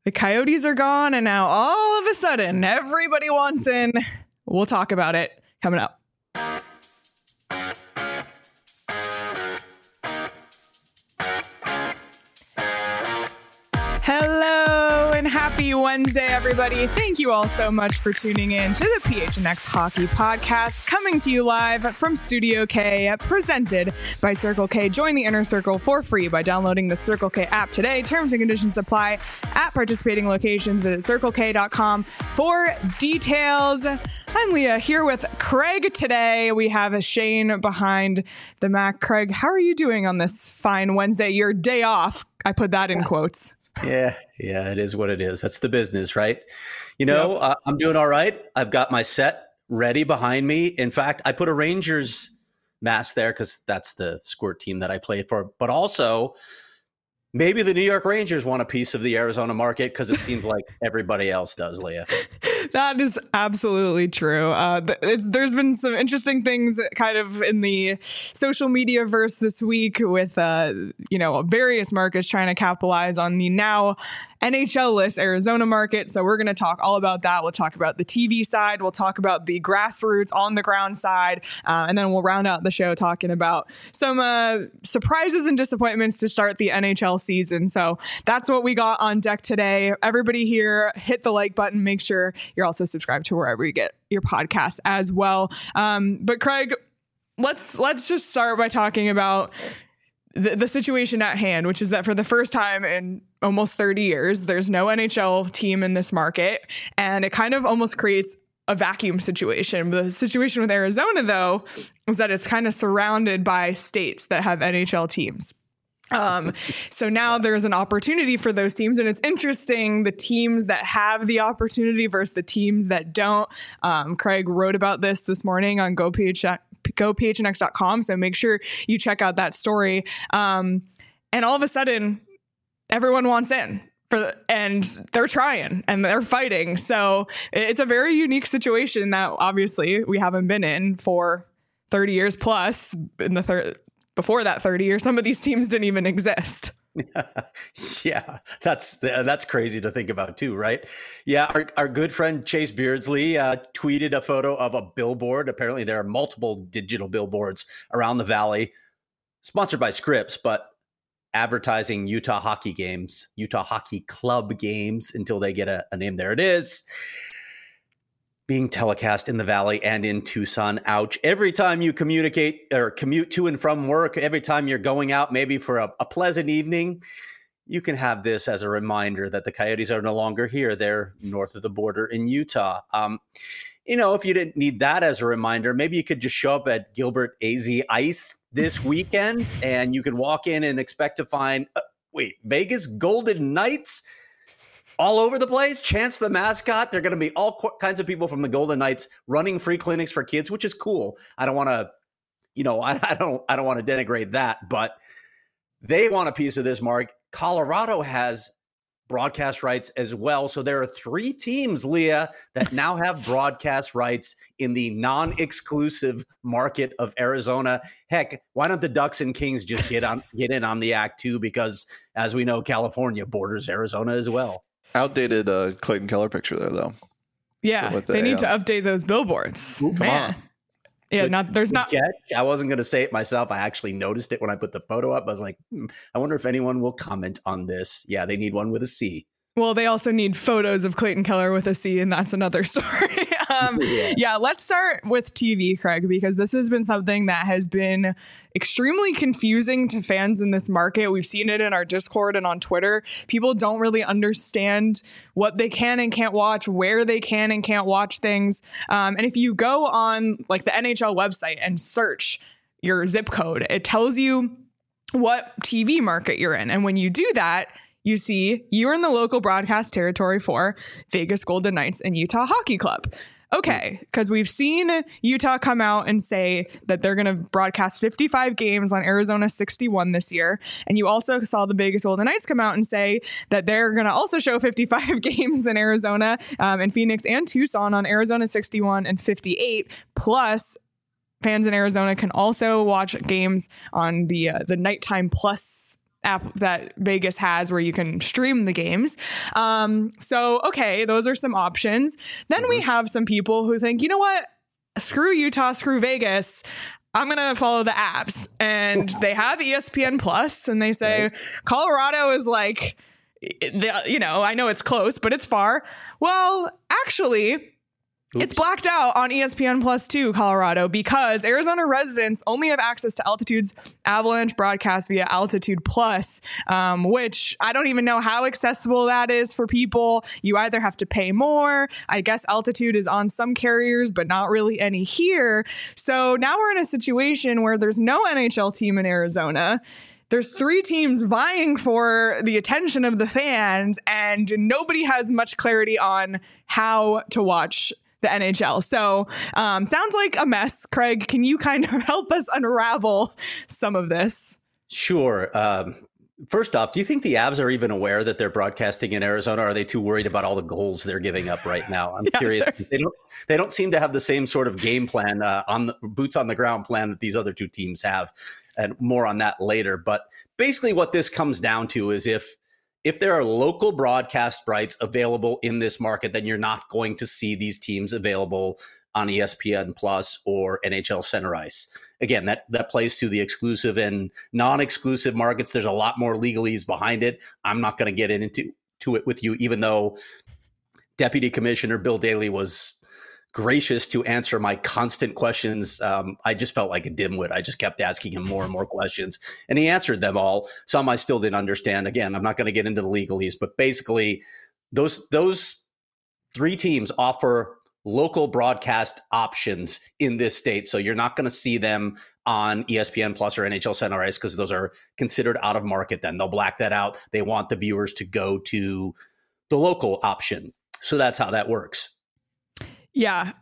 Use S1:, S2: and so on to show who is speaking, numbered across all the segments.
S1: The Coyotes are gone, and now all of a sudden, everybody wants in. We'll talk about it coming up. Hello and happy Wednesday, everybody. Thank you all so much for tuning in to the PHNX Hockey Podcast, coming to you live from Studio K, presented by Circle K. Join the Inner Circle for free by downloading the Circle K app today. Terms and conditions apply at participating locations. Visit circlek.com for details. I'm Leah here with Craig today. We have Shane behind the Mac. Craig, how are you doing on this fine Wednesday? Your day off. I put that in quotes.
S2: Yeah, it is what it is. That's the business, right? I'm doing all right. I've got my set ready behind me. In fact, I put a Rangers mask there because that's the Squirt team that I play for. But also, maybe the New York Rangers want a piece of the Arizona market because it seems like everybody else does, Leah.
S1: That is absolutely true. There's been some interesting things kind of in the social media verse this week with, various markets trying to capitalize on the now NHL-less Arizona market. So we're going to talk all about that. We'll talk about the TV side. We'll talk about the grassroots on the ground side. And then we'll round out the show talking about some surprises and disappointments to start the NHL season. So that's what we got on deck today. Everybody here, hit the like button. Make sure you're also subscribed to wherever you get your podcasts as well. But Craig, let's just start by talking about the situation at hand, which is that for the first time in almost 30 years, there's no NHL team in this market, and it kind of almost creates a vacuum situation. The situation with Arizona, though, is that it's kind of surrounded by states that have NHL teams. So now there's an opportunity for those teams, and it's interesting, the teams that have the opportunity versus the teams that don't. Craig wrote about this morning on GoPHNX.com, so make sure you check out that story. And all of a sudden, everyone wants in. And they're trying and they're fighting. So it's a very unique situation that obviously we haven't been in for 30 years plus. Before that 30 years, some of these teams didn't even exist.
S2: Yeah, that's crazy to think about too, right? Yeah, our good friend Chase Beardsley tweeted a photo of a billboard. Apparently there are multiple digital billboards around the Valley, sponsored by Scripps, but advertising Utah Hockey Club games until they get a name. There it is. Being telecast in the Valley and in Tucson. Ouch. Every time you communicate or commute to and from work, every time you're going out, maybe for a pleasant evening, you can have this as a reminder that the Coyotes are no longer here. They're north of the border in Utah. If you didn't need that as a reminder, maybe you could just show up at Gilbert AZ Ice this weekend and you could walk in and expect to find, Vegas Golden Knights all over the place. Chance the mascot. There are going to be all kinds of people from the Golden Knights running free clinics for kids, which is cool. I don't want to, I don't want to denigrate that, but they want a piece of this, Mark. Colorado has broadcast rights as well. So there are 3 teams, Leah, that now have broadcast rights in the non-exclusive market of Arizona. Heck, why don't the Ducks and Kings just get in on the act too? Because as we know, California borders Arizona as well.
S3: Outdated Clayton Keller picture there, though.
S1: Yeah, they need to update those billboards.
S3: Ooh, come on.
S1: Yeah, there's not.
S2: I wasn't going to say it myself. I actually noticed it when I put the photo up. I was like, I wonder if anyone will comment on this. Yeah, they need one with a C.
S1: Well, they also need photos of Clayton Keller with a C, and that's another story. Yeah, let's start with TV, Craig, because this has been something that has been extremely confusing to fans in this market. We've seen it in our Discord and on Twitter. People don't really understand what they can and can't watch, where they can and can't watch things. And if you go on like the NHL website and search your zip code, it tells you what TV market you're in. And when you do that, you see you're in the local broadcast territory for Vegas Golden Knights and Utah Hockey Club. Okay, because we've seen Utah come out and say that they're going to broadcast 55 games on Arizona 61 this year. And you also saw the Vegas Golden Knights come out and say that they're going to also show 55 games in Arizona, in Phoenix and Tucson on Arizona 61 and 58. Plus, fans in Arizona can also watch games on the Nighttime Plus app that Vegas has where you can stream the games. So, okay, those are some options. Then we have some people who think, you know what? Screw Utah, screw Vegas. I'm going to follow the apps. And they have ESPN Plus, and they say Colorado is like, I know it's close, but it's far. Well, actually, it's blacked out on ESPN Plus too, Colorado, because Arizona residents only have access to Altitude's Avalanche broadcast via Altitude Plus, which I don't even know how accessible that is for people. You either have to pay more. I guess Altitude is on some carriers, but not really any here. So now we're in a situation where there's no NHL team in Arizona. There's 3 teams vying for the attention of the fans, and nobody has much clarity on how to watch the NHL. So sounds like a mess. Craig, can you kind of help us unravel some of this?
S2: Sure. First off, do you think the Avs are even aware that they're broadcasting in Arizona? Or are they too worried about all the goals they're giving up right now? I'm curious. They don't seem to have the same sort of game plan, on the boots on the ground plan that these other 2 teams have, and more on that later. But basically what this comes down to is if there are local broadcast rights available in this market, then you're not going to see these teams available on ESPN Plus or NHL Center Ice. Again, that plays to the exclusive and non-exclusive markets. There's a lot more legalese behind it. I'm not going to get into it with you, even though Deputy Commissioner Bill Daley was gracious to answer my constant questions. I just felt like a dimwit. I just kept asking him more and more questions, and he answered them all. Some I still didn't understand. Again, I'm not going to get into the legalese, but basically those 3 teams offer local broadcast options in this state. So you're not going to see them on ESPN Plus or NHL Center Ice because those are considered out of market. Then they'll black that out. They want the viewers to go to the local option. So that's how that works.
S1: Yeah.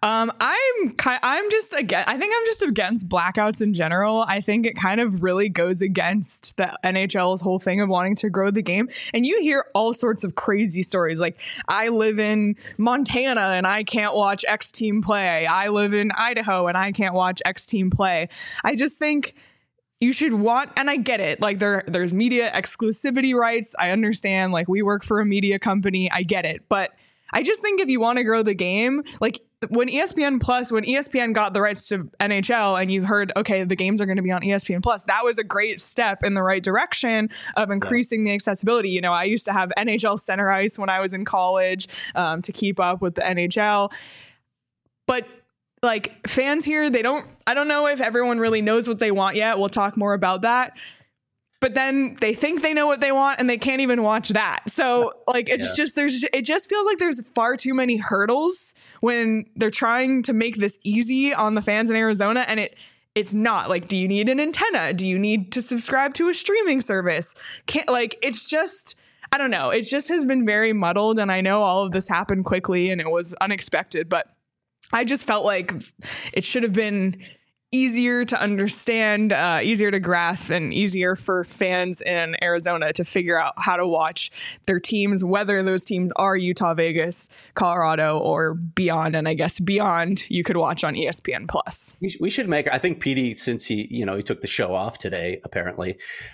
S1: I'm just against blackouts in general. I think it kind of really goes against the NHL's whole thing of wanting to grow the game. And you hear all sorts of crazy stories. Like, I live in Montana and I can't watch X team play. I live in Idaho and I can't watch X team play. I just think you should want, and I get it, like there's media exclusivity rights. I understand, like, we work for a media company. I get it. But I just think if you want to grow the game, like when ESPN got the rights to NHL and you heard, okay, the games are going to be on ESPN Plus, that was a great step in the right direction of increasing the accessibility. You know, I used to have NHL Center Ice when I was in college to keep up with the NHL. But like, fans here, I don't know if everyone really knows what they want yet. We'll talk more about that. But then they think they know what they want and they can't even watch that. So like, it just feels like there's far too many hurdles when they're trying to make this easy on the fans in Arizona. And it's not. Like, do you need an antenna? Do you need to subscribe to a streaming service? It's just, I don't know. It just has been very muddled. And I know all of this happened quickly and it was unexpected, but I just felt like it should have been easier to understand, easier to grasp, and easier for fans in Arizona to figure out how to watch their teams, whether those teams are Utah, Vegas, Colorado, or beyond. And I guess beyond you could watch on ESPN Plus.
S2: We should make, I think Petey, since he took the show off today, apparently,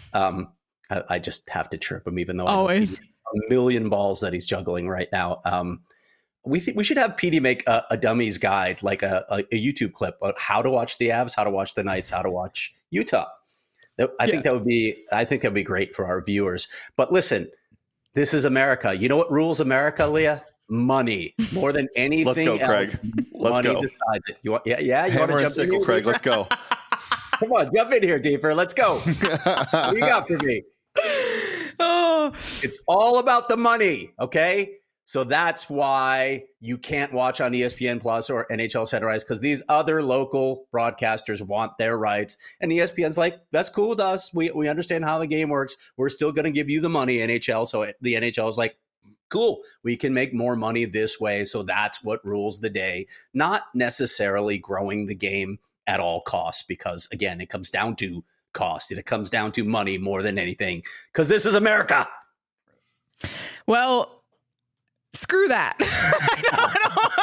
S2: I just have to chirp him, even though
S1: always
S2: a million balls that he's juggling right now. We should have Petey make a dummies guide, like a YouTube clip on how to watch the Avs, how to watch the Knights, how to watch Utah. I think that would be great for our viewers. But listen, this is America. You know what rules America, Leah? Money more than anything.
S3: Let's go,
S2: else.
S3: Craig. Let's
S2: Money
S3: go.
S2: Decides it. You want? Yeah. You
S3: Hammer
S2: want to
S3: and
S2: jump
S3: sickle,
S2: in
S3: Craig. Let's go.
S2: Come on, jump in here, Deeper. Let's go. What do you got for me?
S1: Oh,
S2: It's all about the money. Okay. So that's why you can't watch on ESPN Plus or NHL Center Ice, because these other local broadcasters want their rights. And ESPN's like, that's cool with us. We understand how the game works. We're still going to give you the money, NHL. So the NHL is like, cool, we can make more money this way. So that's what rules the day, not necessarily growing the game at all costs, because, again, it comes down to cost. It comes down to money more than anything, because this is America.
S1: well, screw that.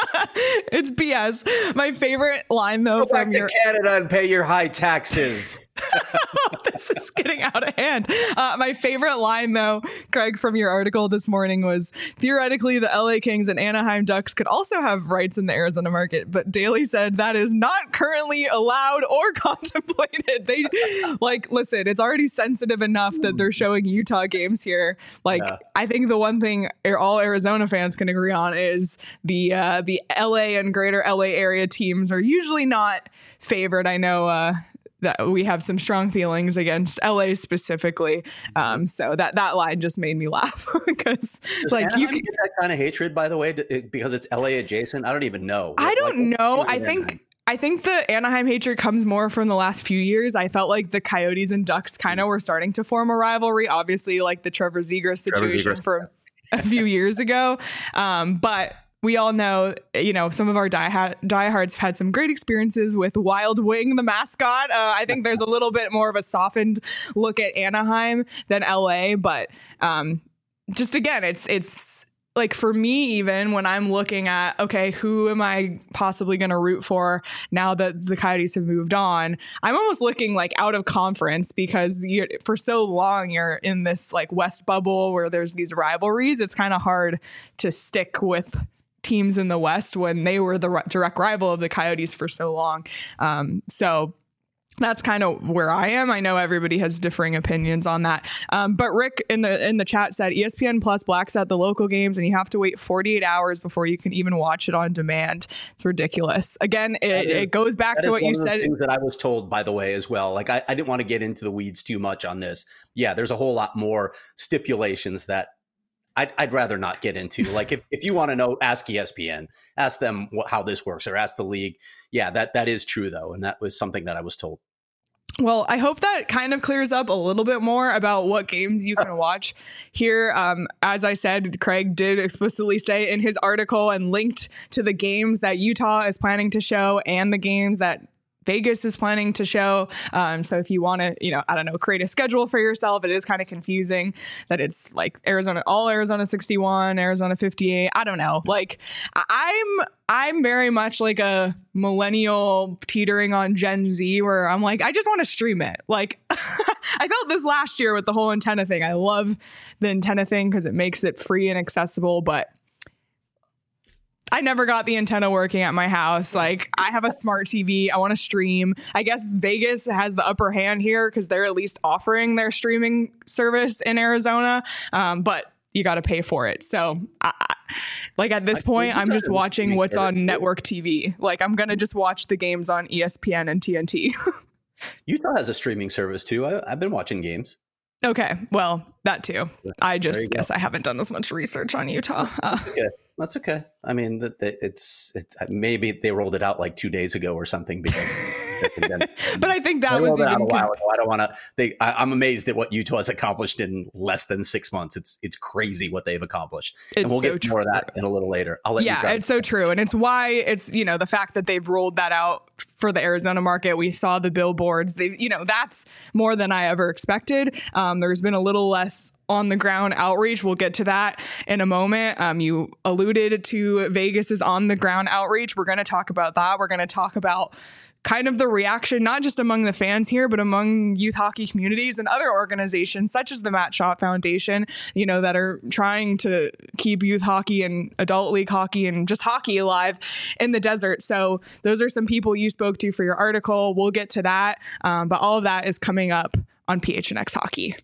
S1: It's BS. My favorite line, though,
S2: Go back to Canada and pay your high taxes.
S1: This is getting out of hand. My favorite line, though, Craig, from your article this morning was, theoretically, the LA Kings and Anaheim Ducks could also have rights in the Arizona market, but Daly said that is not currently allowed or contemplated. They listen, it's already sensitive enough that they're showing Utah games here. I think the one thing all Arizona fans can agree on is the LA and greater LA area teams are usually not favored. I know that we have some strong feelings against LA specifically. So that line just made me laugh because
S2: you can get that kind of hatred, by the way, because it's LA adjacent. I don't even know.
S1: I don't know. I think the Anaheim hatred comes more from the last few years. I felt like the Coyotes and Ducks kind of were starting to form a rivalry, obviously like the Trevor Zegras situation from a few years ago. But we all know, some of our diehards have had some great experiences with Wild Wing, the mascot. I think there's a little bit more of a softened look at Anaheim than LA. But just again, it's like for me, even when I'm looking at, okay, who am I possibly going to root for now that the Coyotes have moved on? I'm almost looking out of conference because for so long you're in this West bubble where there's these rivalries. It's kind of hard to stick with teams in the West when they were the direct rival of the Coyotes for so long. So that's kind of where I am. I know everybody has differing opinions on that. But Rick in the chat said ESPN Plus blacks out the local games and you have to wait 48 hours before you can even watch it on demand. It's ridiculous. Again, it goes back to what you said.
S2: Things that I was told, by the way, as well. I didn't want to get into the weeds too much on this. Yeah, there's a whole lot more stipulations that I'd rather not get into. If you want to know, ask ESPN, ask them how this works, or ask the league. Yeah, that is true though, and that was something that I was told.
S1: Well, I hope that kind of clears up a little bit more about what games you can watch here. As I said, Craig did explicitly say in his article and linked to the games that Utah is planning to show and the games that Vegas is planning to show. So if you want to, create a schedule for yourself, it is kind of confusing that it's Arizona 61, Arizona 58. I don't know. I'm very much like a millennial teetering on Gen Z where I'm I just want to stream it. I felt this last year with the whole antenna thing. I love the antenna thing because it makes it free and accessible, but I never got the antenna working at my house. I have a smart TV. I want to stream. I guess Vegas has the upper hand here because they're at least offering their streaming service in Arizona. But you got to pay for it. So at this point, I'm just watching what's on network TV. I'm going to just watch the games on ESPN and TNT.
S2: Utah has a streaming service too. I've been watching games.
S1: Okay. Well, that too. I just guess I haven't done as much research on Utah.
S2: That's okay. I mean, it's maybe they rolled it out 2 days ago or something because.
S1: But I think that was even
S2: a while ago. I don't want to. I'm amazed at what Utah has accomplished in less than 6 months. It's crazy what they've accomplished, and we'll get more of that in a little later. I'll let you. Yeah,
S1: it's so true, and it's why it's the fact that they've rolled that out for the Arizona market. We saw the billboards. That's more than I ever expected. There's been a little less on the ground outreach. We'll get to that in a moment. You alluded to Vegas's on the ground outreach. We're going to talk about that. We're going to talk about kind of the reaction, not just among the fans here, but among youth hockey communities and other organizations such as the Matt Schott Foundation, that are trying to keep youth hockey and adult league hockey and just hockey alive in the desert. So those are some people you spoke to for your article. We'll get to that. But all of that is coming up on PHNX Hockey.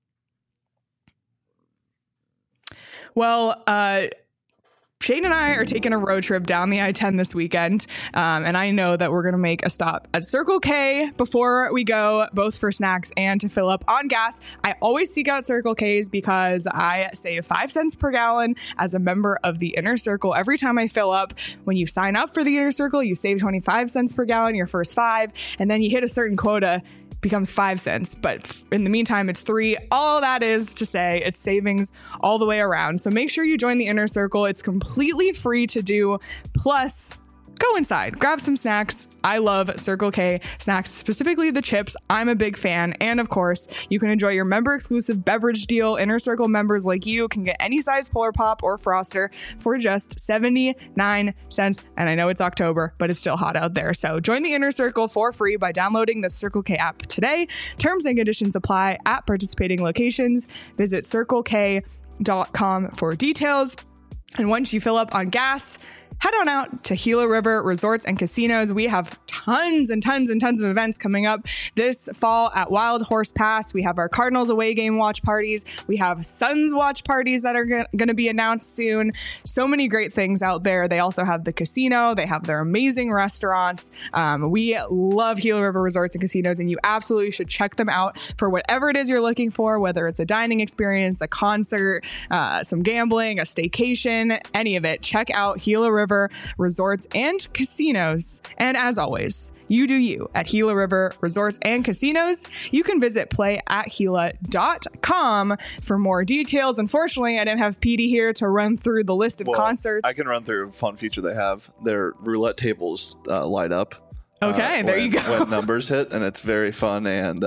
S1: Well, Shane and I are taking a road trip down the I-10 this weekend, and I know that we're going to make a stop at Circle K before we go, both for snacks and to fill up on gas. I always seek out Circle K's because I save 5 cents per gallon as a member of the Inner Circle every time I fill up. When you sign up for the Inner Circle, you save 25 cents per gallon, your first 5, and then you hit a certain quota, becomes 5 cents, but in the meantime it's 3. All that is to say it's savings all the way around. So make sure you join the Inner Circle. It's completely free to do. Plus, go inside, grab some snacks. I love Circle K snacks, specifically the chips. I'm a big fan. And of course, you can enjoy your member exclusive beverage deal. Inner Circle members like you can get any size Polar Pop or Froster for just 79 cents. And I know it's October, but it's still hot out there. So join the Inner Circle for free by downloading the Circle K app today. Terms and conditions apply at participating locations. Visit CircleK.com for details. And once you fill up on gas, head on out to Gila River Resorts and Casinos. We have tons and tons and tons of events coming up this fall at Wild Horse Pass. We have our Cardinals away game watch parties. We have Suns watch parties that are going to be announced soon. So many great things out there. They also have the casino. They have their amazing restaurants. We love Gila River Resorts and Casinos, and you absolutely should check them out for whatever it is you're looking for, whether it's a dining experience, a concert, some gambling, a staycation, any of it. Check out Gila River Resorts and Casinos. And as always, you do you at Gila River Resorts and Casinos. You can visit playatgila.com for more details. Unfortunately, I didn't have Petey here to run through the list of concerts.
S3: I can run through a fun feature they have. Their roulette tables light up.
S1: Okay, there you go.
S3: When numbers hit, and it's very fun, and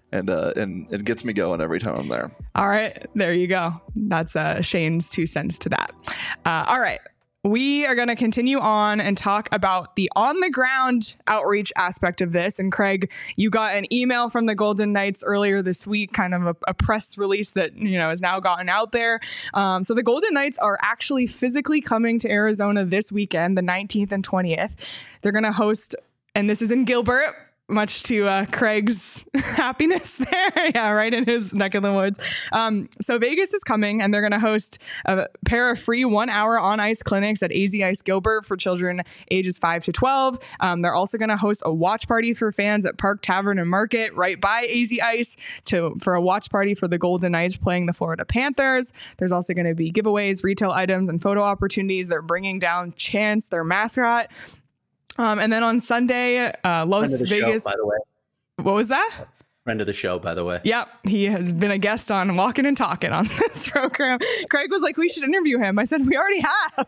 S3: it gets me going every time I'm there.
S1: All right, there you go. That's Shane's 2 cents to that. All right. We are going to continue on and talk about the on-the-ground outreach aspect of this. And Craig, you got an email from the Golden Knights earlier this week, kind of a press release that, has now gotten out there. So the Golden Knights are actually physically coming to Arizona this weekend, the 19th and 20th. They're going to host, and this is in Gilbert, much to Craig's happiness there. Yeah, right in his neck of the woods. So Vegas is coming, and they're going to host a pair of free 1-hour on-ice clinics at AZ Ice Gilbert for children ages 5 to 12. They're also going to host a watch party for fans at Park Tavern and Market right by AZ Ice for a watch party for the Golden Knights playing the Florida Panthers. There's also going to be giveaways, retail items, and photo opportunities. They're bringing down Chance, their mascot. And then on Sunday, Las Vegas.
S2: Show, by the way.
S1: What was that?
S2: Friend of the show, by the way.
S1: Yep. He has been a guest on Walking and Talking on this program. Craig was like, we should interview him. I said, we already have.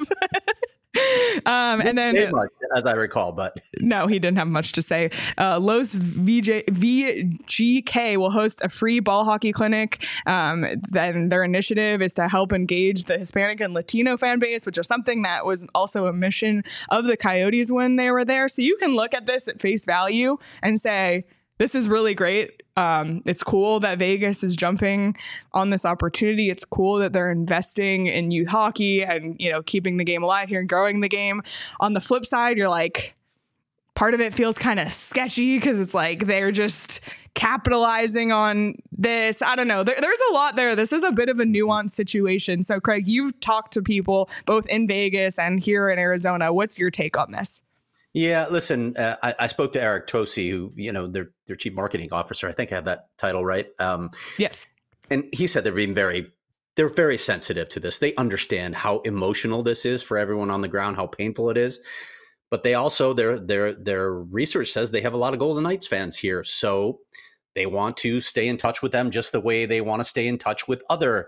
S1: And then,
S2: much, as I recall, but
S1: no, he didn't have much to say. Los VGK will host a free ball hockey clinic. Then their initiative is to help engage the Hispanic and Latino fan base, which is something that was also a mission of the Coyotes when they were there. So you can look at this at face value and say, this is really great. It's cool that Vegas is jumping on this opportunity. It's cool that they're investing in youth hockey and, keeping the game alive here and growing the game. On the flip side, you're like, part of it feels kind of sketchy because it's like they're just capitalizing on this. I don't know. There's a lot there. This is a bit of a nuanced situation. So, Craig, you've talked to people both in Vegas and here in Arizona. What's your take on this?
S2: Yeah, listen, I spoke to Eric Tosi, who, their chief marketing officer. I think I have that title right.
S1: Yes. And
S2: he said they're very sensitive to this. They understand how emotional this is for everyone on the ground, how painful it is. But they also, their research says they have a lot of Golden Knights fans here. So they want to stay in touch with them just the way they want to stay in touch with other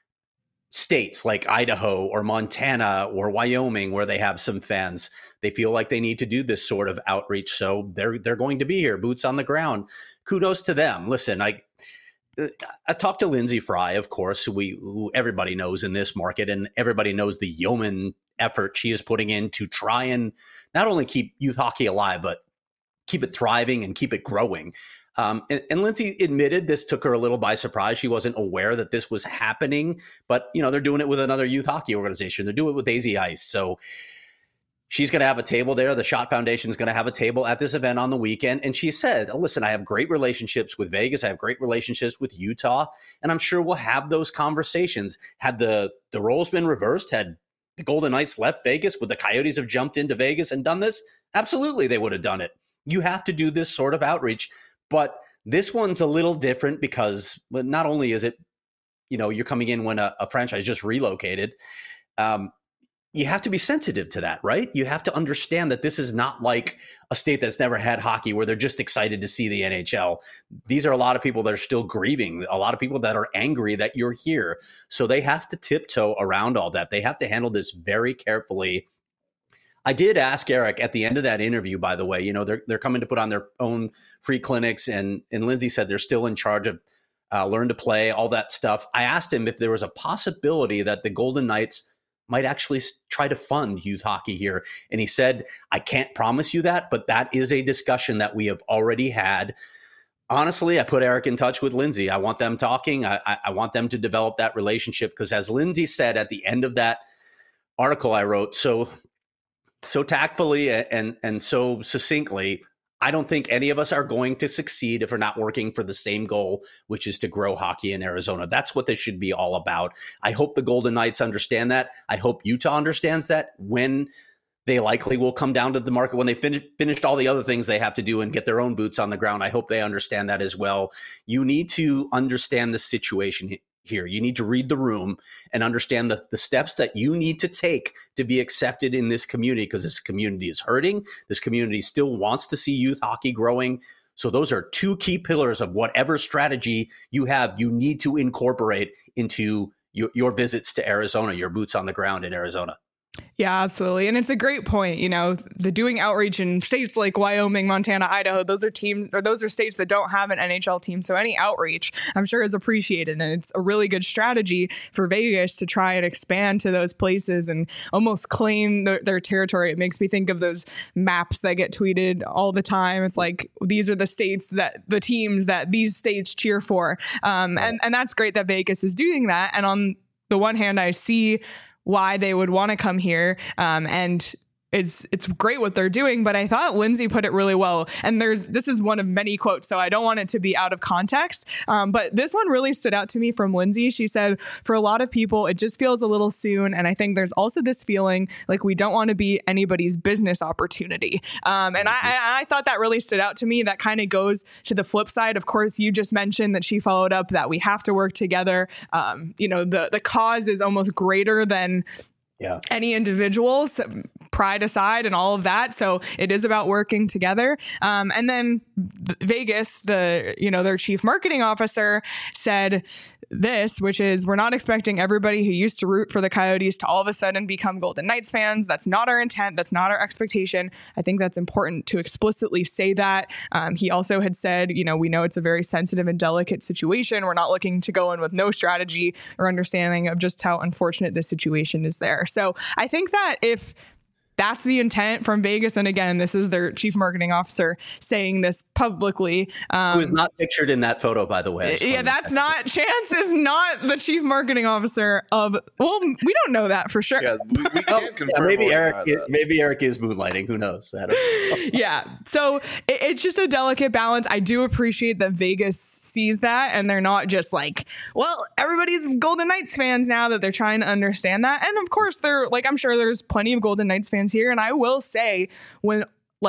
S2: states like Idaho or Montana or Wyoming, where they have some fans. They feel like they need to do this sort of outreach. So they're going to be here, boots on the ground. Kudos to them. Listen, I talked to Lindsay Fry, of course, who everybody knows in this market, and everybody knows the yeoman effort she is putting in to try and not only keep youth hockey alive, but keep it thriving and keep it growing. And Lindsay admitted this took her a little by surprise. She wasn't aware that this was happening, but they're doing it with another youth hockey organization. They're doing it with AZ Ice. So she's going to have a table there. The Schott Foundation is going to have a table at this event on the weekend. And she said, listen, I have great relationships with Vegas. I have great relationships with Utah. And I'm sure we'll have those conversations. Had the roles been reversed, had the Golden Knights left Vegas, would the Coyotes have jumped into Vegas and done this? Absolutely, they would have done it. You have to do this sort of outreach. But this one's a little different because not only is it, you're coming in when a franchise just relocated, you have to be sensitive to that, right? You have to understand that this is not like a state that's never had hockey where they're just excited to see the NHL. These are a lot of people that are still grieving, a lot of people that are angry that you're here. So they have to tiptoe around all that. They have to handle this very carefully. I did ask Eric at the end of that interview, by the way, they're coming to put on their own free clinics, and Lindsay said they're still in charge of Learn to Play, all that stuff. I asked him if there was a possibility that the Golden Knights might actually try to fund youth hockey here. And he said, I can't promise you that, but that is a discussion that we have already had. Honestly, I put Eric in touch with Lindsay. I want them talking. I want them to develop that relationship, because as Lindsay said at the end of that article I wrote so tactfully and so succinctly, I don't think any of us are going to succeed if we're not working for the same goal, which is to grow hockey in Arizona. That's what this should be all about. I hope the Golden Knights understand that. I hope Utah understands that when they likely will come down to the market, when they finished all the other things they have to do and get their own boots on the ground. I hope they understand that as well. You need to understand the situation here. You need to read the room and understand the steps that you need to take to be accepted in this community, because this community is hurting. This community still wants to see youth hockey growing. So those are two key pillars of whatever strategy you have. You need to incorporate into your visits to Arizona, your boots on the ground in Arizona.
S1: Yeah, absolutely. And it's a great point. The doing outreach in states like Wyoming, Montana, Idaho, those are states that don't have an NHL team. So any outreach, I'm sure, is appreciated. And it's a really good strategy for Vegas to try and expand to those places and almost claim their territory. It makes me think of those maps that get tweeted all the time. It's like, these are the states that the teams that these states cheer for. And that's great that Vegas is doing that. And on the one hand, I see why they would want to come here. And it's great what they're doing, but I thought Lindsay put it really well. And this is one of many quotes, so I don't want it to be out of context. But this one really stood out to me from Lindsay. She said, for a lot of people, it just feels a little soon. And I think there's also this feeling like we don't want to be anybody's business opportunity. And I thought that really stood out to me. That kind of goes to the flip side. Of course, you just mentioned that she followed up that we have to work together. The cause is almost greater than any individuals, pride aside and all of that. So it is about working together. And then Vegas, their chief marketing officer said this, which is, we're not expecting everybody who used to root for the Coyotes to all of a sudden become Golden Knights fans. That's not our intent. That's not our expectation. I think that's important to explicitly say that. He also had said, we know it's a very sensitive and delicate situation. We're not looking to go in with no strategy or understanding of just how unfortunate this situation is there. So I think that if that's the intent from Vegas, and again, this is their chief marketing officer saying this publicly.
S2: Who is not pictured in that photo, by the way.
S1: Yeah, that's not, Chance is not the chief marketing officer of, well, we don't know that for sure.
S3: Yeah, we can't confirm.
S2: Maybe Eric is moonlighting. Who knows? I don't know.
S1: Yeah, so it's just a delicate balance. I do appreciate that Vegas sees that, and they're not just like, well, everybody's Golden Knights fans now, that they're trying to understand that. And of course, they're like, I'm sure there's plenty of Golden Knights fans here. And I will say, when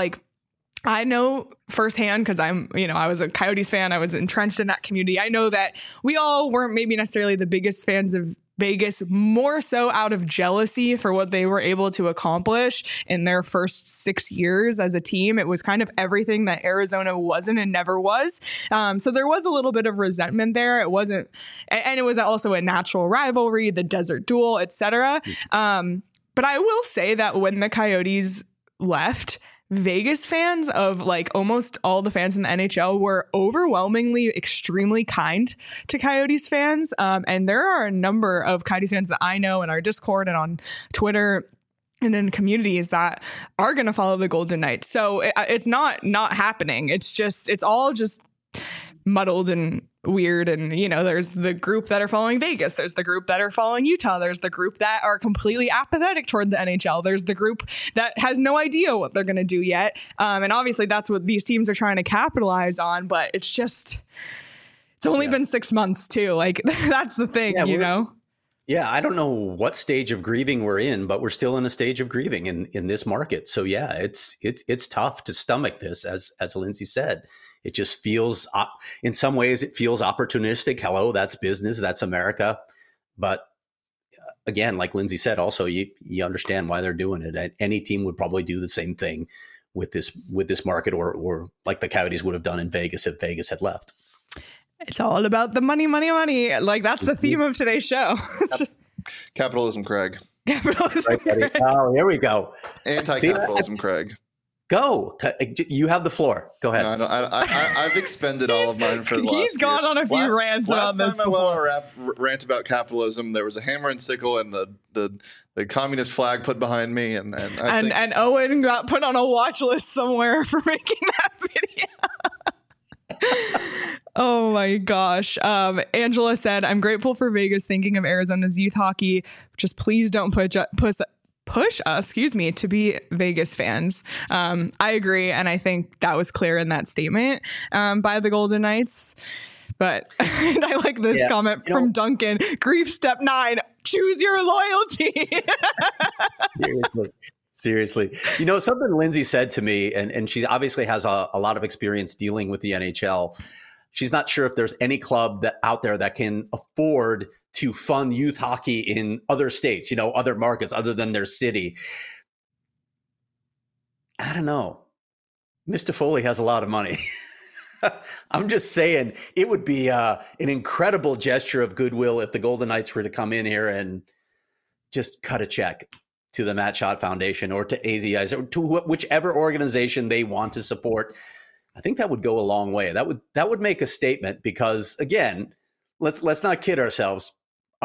S1: I know firsthand, because I was a Coyotes fan, I was entrenched in that community. I know that we all weren't maybe necessarily the biggest fans of Vegas, more so out of jealousy for what they were able to accomplish in their first 6 years as a team. It was kind of everything that Arizona wasn't and never was. So there was a little bit of resentment there. It wasn't, and it was also a natural rivalry, the desert duel, etc. But I will say that when the Coyotes left, Vegas fans of almost all the fans in the NHL were overwhelmingly extremely kind to Coyotes fans. And there are a number of Coyotes fans that I know in our Discord and on Twitter and in communities that are going to follow the Golden Knights. So it's not happening. It's all just muddled and weird. And, there's the group that are following Vegas. There's the group that are following Utah. There's the group that are completely apathetic toward the NHL. There's the group that has no idea what they're going to do yet. And obviously that's what these teams are trying to capitalize on. But it's only been 6 months too. That's the thing,
S2: Yeah, I don't know what stage of grieving we're in, but we're still in a stage of grieving in this market. So yeah, it's tough to stomach this, as Lindsay said. It just feels, in some ways, it feels opportunistic. Hello, that's business, that's America. But again, like Lindsay said, also you understand why they're doing it. Any team would probably do the same thing with this market, or like the Coyotes would have done in Vegas if Vegas had left.
S1: It's all about the money, money, money. That's the theme of today's show.
S3: Capitalism, Craig.
S1: Capitalism.
S2: Right, buddy? Oh, here we go.
S3: Anti-capitalism, Craig.
S2: Go. You have the floor. Go ahead.
S3: No, I've expended all of mine for the last
S1: He's gone
S3: year.
S1: on a few rants on this
S3: Last time I went on a rant about capitalism, there was a hammer and sickle and the communist flag put behind me, and
S1: Owen got put on a watch list somewhere for making that video. Oh my gosh. Angela said, I'm grateful for Vegas thinking of Arizona's youth hockey. Just please don't push us, to be Vegas fans. I agree. And I think that was clear in that statement by the Golden Knights. But I like this comment from Duncan. Grief step 9, choose your loyalty.
S2: Seriously. Something Lindsay said to me, and she obviously has a lot of experience dealing with the NHL. She's not sure if there's any club out there that can afford to fund youth hockey in other states, other markets other than their city. I don't know. Mr. Foley has a lot of money. I'm just saying it would be an incredible gesture of goodwill if the Golden Knights were to come in here and just cut a check to the Matt Schott Foundation or to AZI or to whichever organization they want to support. I think that would go a long way. That would make a statement because, again, let's not kid ourselves.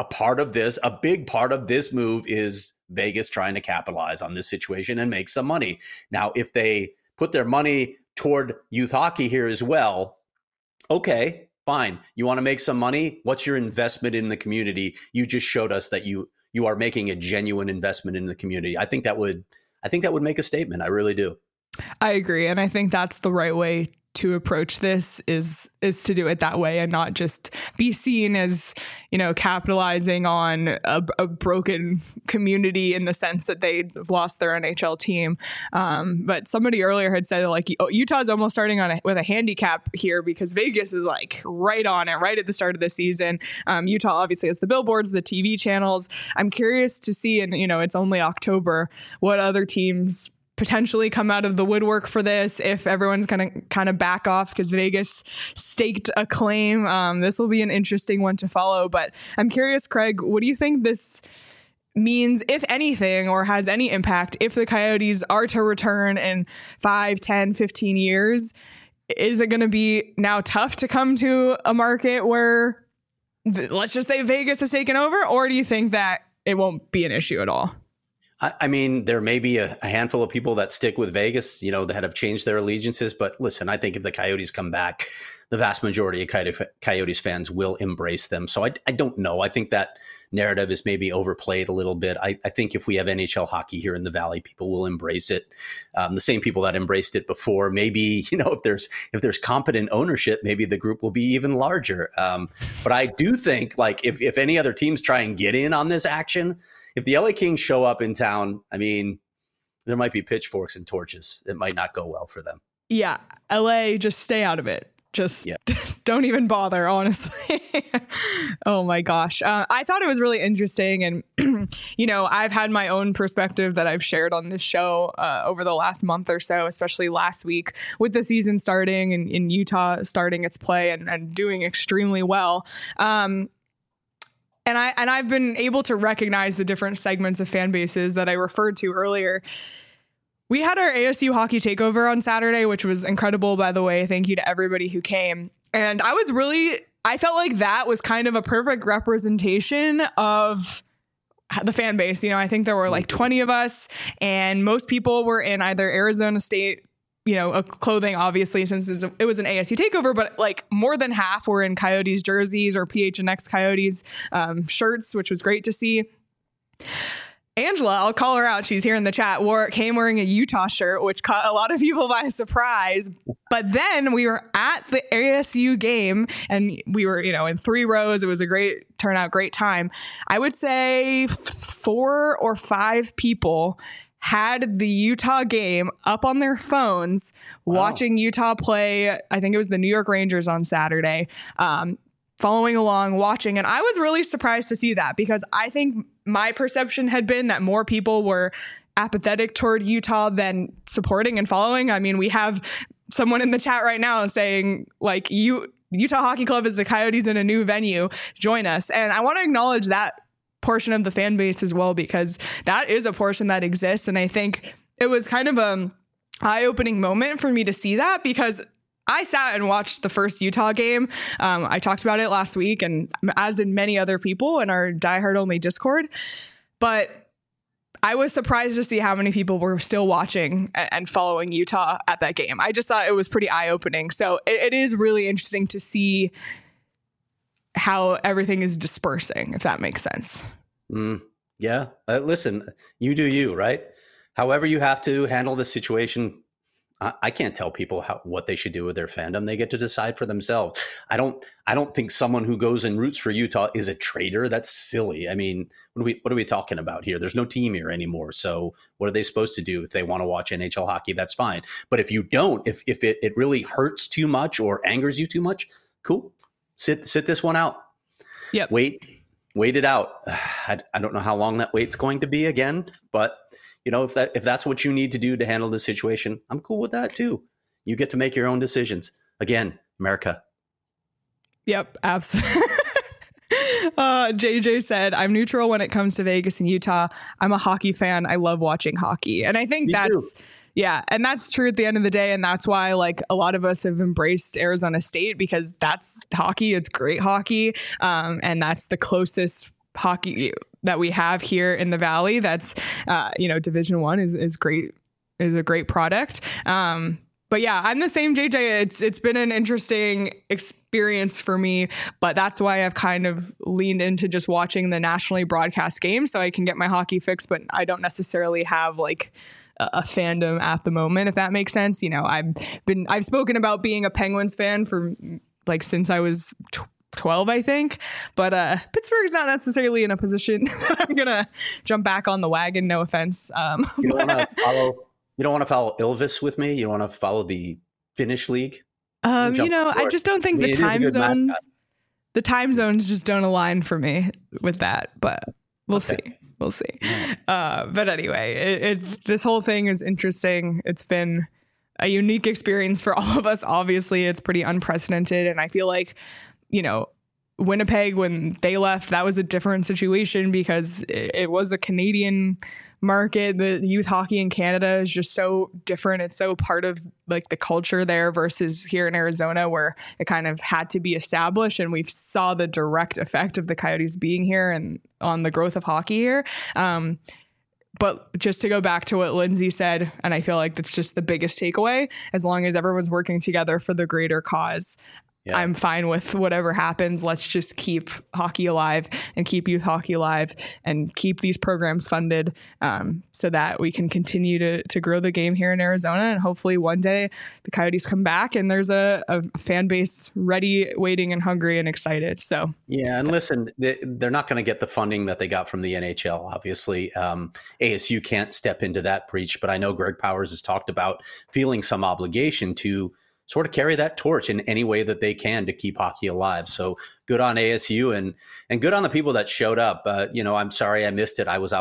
S2: A big part of this move is Vegas trying to capitalize on this situation and make some money. Now, if they put their money toward youth hockey here as well, okay, fine. You want to make some money? What's your investment in the community? You just showed us that you are making a genuine investment in the community. I think that would make a statement. I really do.
S1: I agree. And I think that's the right way to approach this is to do it that way and not just be seen as, capitalizing on a broken community in the sense that they lost their NHL team. But somebody earlier had said Utah's almost starting with a handicap here because Vegas is right on it, right at the start of the season. Utah obviously has the billboards, the TV channels. I'm curious to see, and it's only October, what other teams potentially come out of the woodwork for this if everyone's going to kind of back off because Vegas staked a claim. This will be an interesting one to follow, but I'm curious, Craig, what do you think this means, if anything, or has any impact if the Coyotes are to return in 5, 10, 15 years? Is it going to be now tough to come to a market where, let's just say, Vegas has taken over, or do you think that it won't be an issue at all?
S2: I mean, there may be a handful of people that stick with Vegas, that have changed their allegiances. But listen, I think if the Coyotes come back, the vast majority of Coyotes fans will embrace them. So I don't know. I think that narrative is maybe overplayed a little bit. I think if we have NHL hockey here in the Valley, people will embrace it. The same people that embraced it before. Maybe, if there's competent ownership, maybe the group will be even larger. But I do think if any other teams try and get in on this action, if the LA Kings show up in town, I mean, there might be pitchforks and torches. It might not go well for them.
S1: Yeah. LA, just stay out of it. Just don't even bother, honestly. Oh my gosh. I thought it was really interesting. And, I've had my own perspective that I've shared on this show over the last month or so, especially last week with the season starting and in Utah starting its play and doing extremely well. And I've been able to recognize the different segments of fan bases that I referred to earlier. We had our ASU hockey takeover on Saturday, which was incredible, by the way. Thank you to everybody who came. And I felt like that was kind of a perfect representation of the fan base. I think there were 20 of us, and most people were in either Arizona State clothing, obviously, since it was an ASU takeover, but more than half were in Coyotes jerseys or PHNX Coyotes shirts, which was great to see. Angela, I'll call her out. She's here in the chat. Came wearing a Utah shirt, which caught a lot of people by surprise. But then we were at the ASU game and we were, in 3 rows. It was a great turnout, great time. I would say 4 or 5 people had the Utah game up on their phones, watching Utah play. I think it was the New York Rangers on Saturday, following along, watching. And I was really surprised to see that because I think my perception had been that more people were apathetic toward Utah than supporting and following. I mean, we have someone in the chat right now saying Utah Hockey Club is the Coyotes in a new venue. Join us. And I want to acknowledge that portion of the fan base as well, because that is a portion that exists. And I think it was kind of a eye-opening moment for me to see that, because I sat and watched the first Utah game. I talked about it last week, and as did many other people in our diehard only Discord. But I was surprised to see how many people were still watching and following Utah at that game. I just thought it was pretty eye-opening. So it is really interesting to see how everything is dispersing, if that makes sense.
S2: Yeah. Listen, you do you, right? However you have to handle the situation. I can't tell people what they should do with their fandom. They get to decide for themselves. I don't think someone who goes and roots for Utah is a traitor. That's silly. I mean, what are we talking about here? There's no team here anymore. So what are they supposed to do if they want to watch NHL hockey? That's fine. But if you don't, if it really hurts too much or angers you too much, cool. Sit this one out.
S1: Yep.
S2: Wait it out. I don't know how long that wait's going to be again, but if that's what you need to do to handle the situation, I'm cool with that too. You get to make your own decisions. Again, America.
S1: Yep, absolutely. JJ said, I'm neutral when it comes to Vegas and Utah. I'm a hockey fan. I love watching hockey. And I think and that's true at the end of the day. And that's why like a lot of us have embraced Arizona State, because that's hockey. It's great hockey. And that's the closest hockey that we have here in the Valley. That's, Division I is great, is a great product. But yeah, I'm the same, JJ. It's been an interesting experience for me, but that's why I've kind of leaned into just watching the nationally broadcast games so I can get my hockey fix, but I don't necessarily have like a fandom at the moment, if that makes sense. I've spoken about being a Penguins fan for like since I was 12, I think, but Pittsburgh's not necessarily in a position that I'm gonna jump back on the wagon. No offense.
S2: You don't want to follow Ilves with me. You don't want to follow the Finnish league.
S1: I just don't think the time zones just don't align for me with that. But we'll see. But anyway, this whole thing is interesting. It's been a unique experience for all of us. Obviously, it's pretty unprecedented, and I feel like, Winnipeg, when they left, that was a different situation because it was a Canadian market. The youth hockey in Canada is just so different. It's so part of like the culture there versus here in Arizona, where it kind of had to be established. And we saw the direct effect of the Coyotes being here and on the growth of hockey here. But just to go back to what Lindsay said, and I feel like that's just the biggest takeaway, as long as everyone's working together for the greater cause, I'm fine with whatever happens. Let's just keep hockey alive and keep youth hockey alive and keep these programs funded so that we can continue to grow the game here in Arizona. And hopefully one day the Coyotes come back and there's a fan base ready, waiting, and hungry and excited. So
S2: yeah, and listen, they're not going to get the funding that they got from the NHL. Obviously, ASU can't step into that breach, but I know Greg Powers has talked about feeling some obligation to sort of carry that torch in any way that they can to keep hockey alive. So good on ASU and good on the people that showed up. I'm sorry I missed it. I was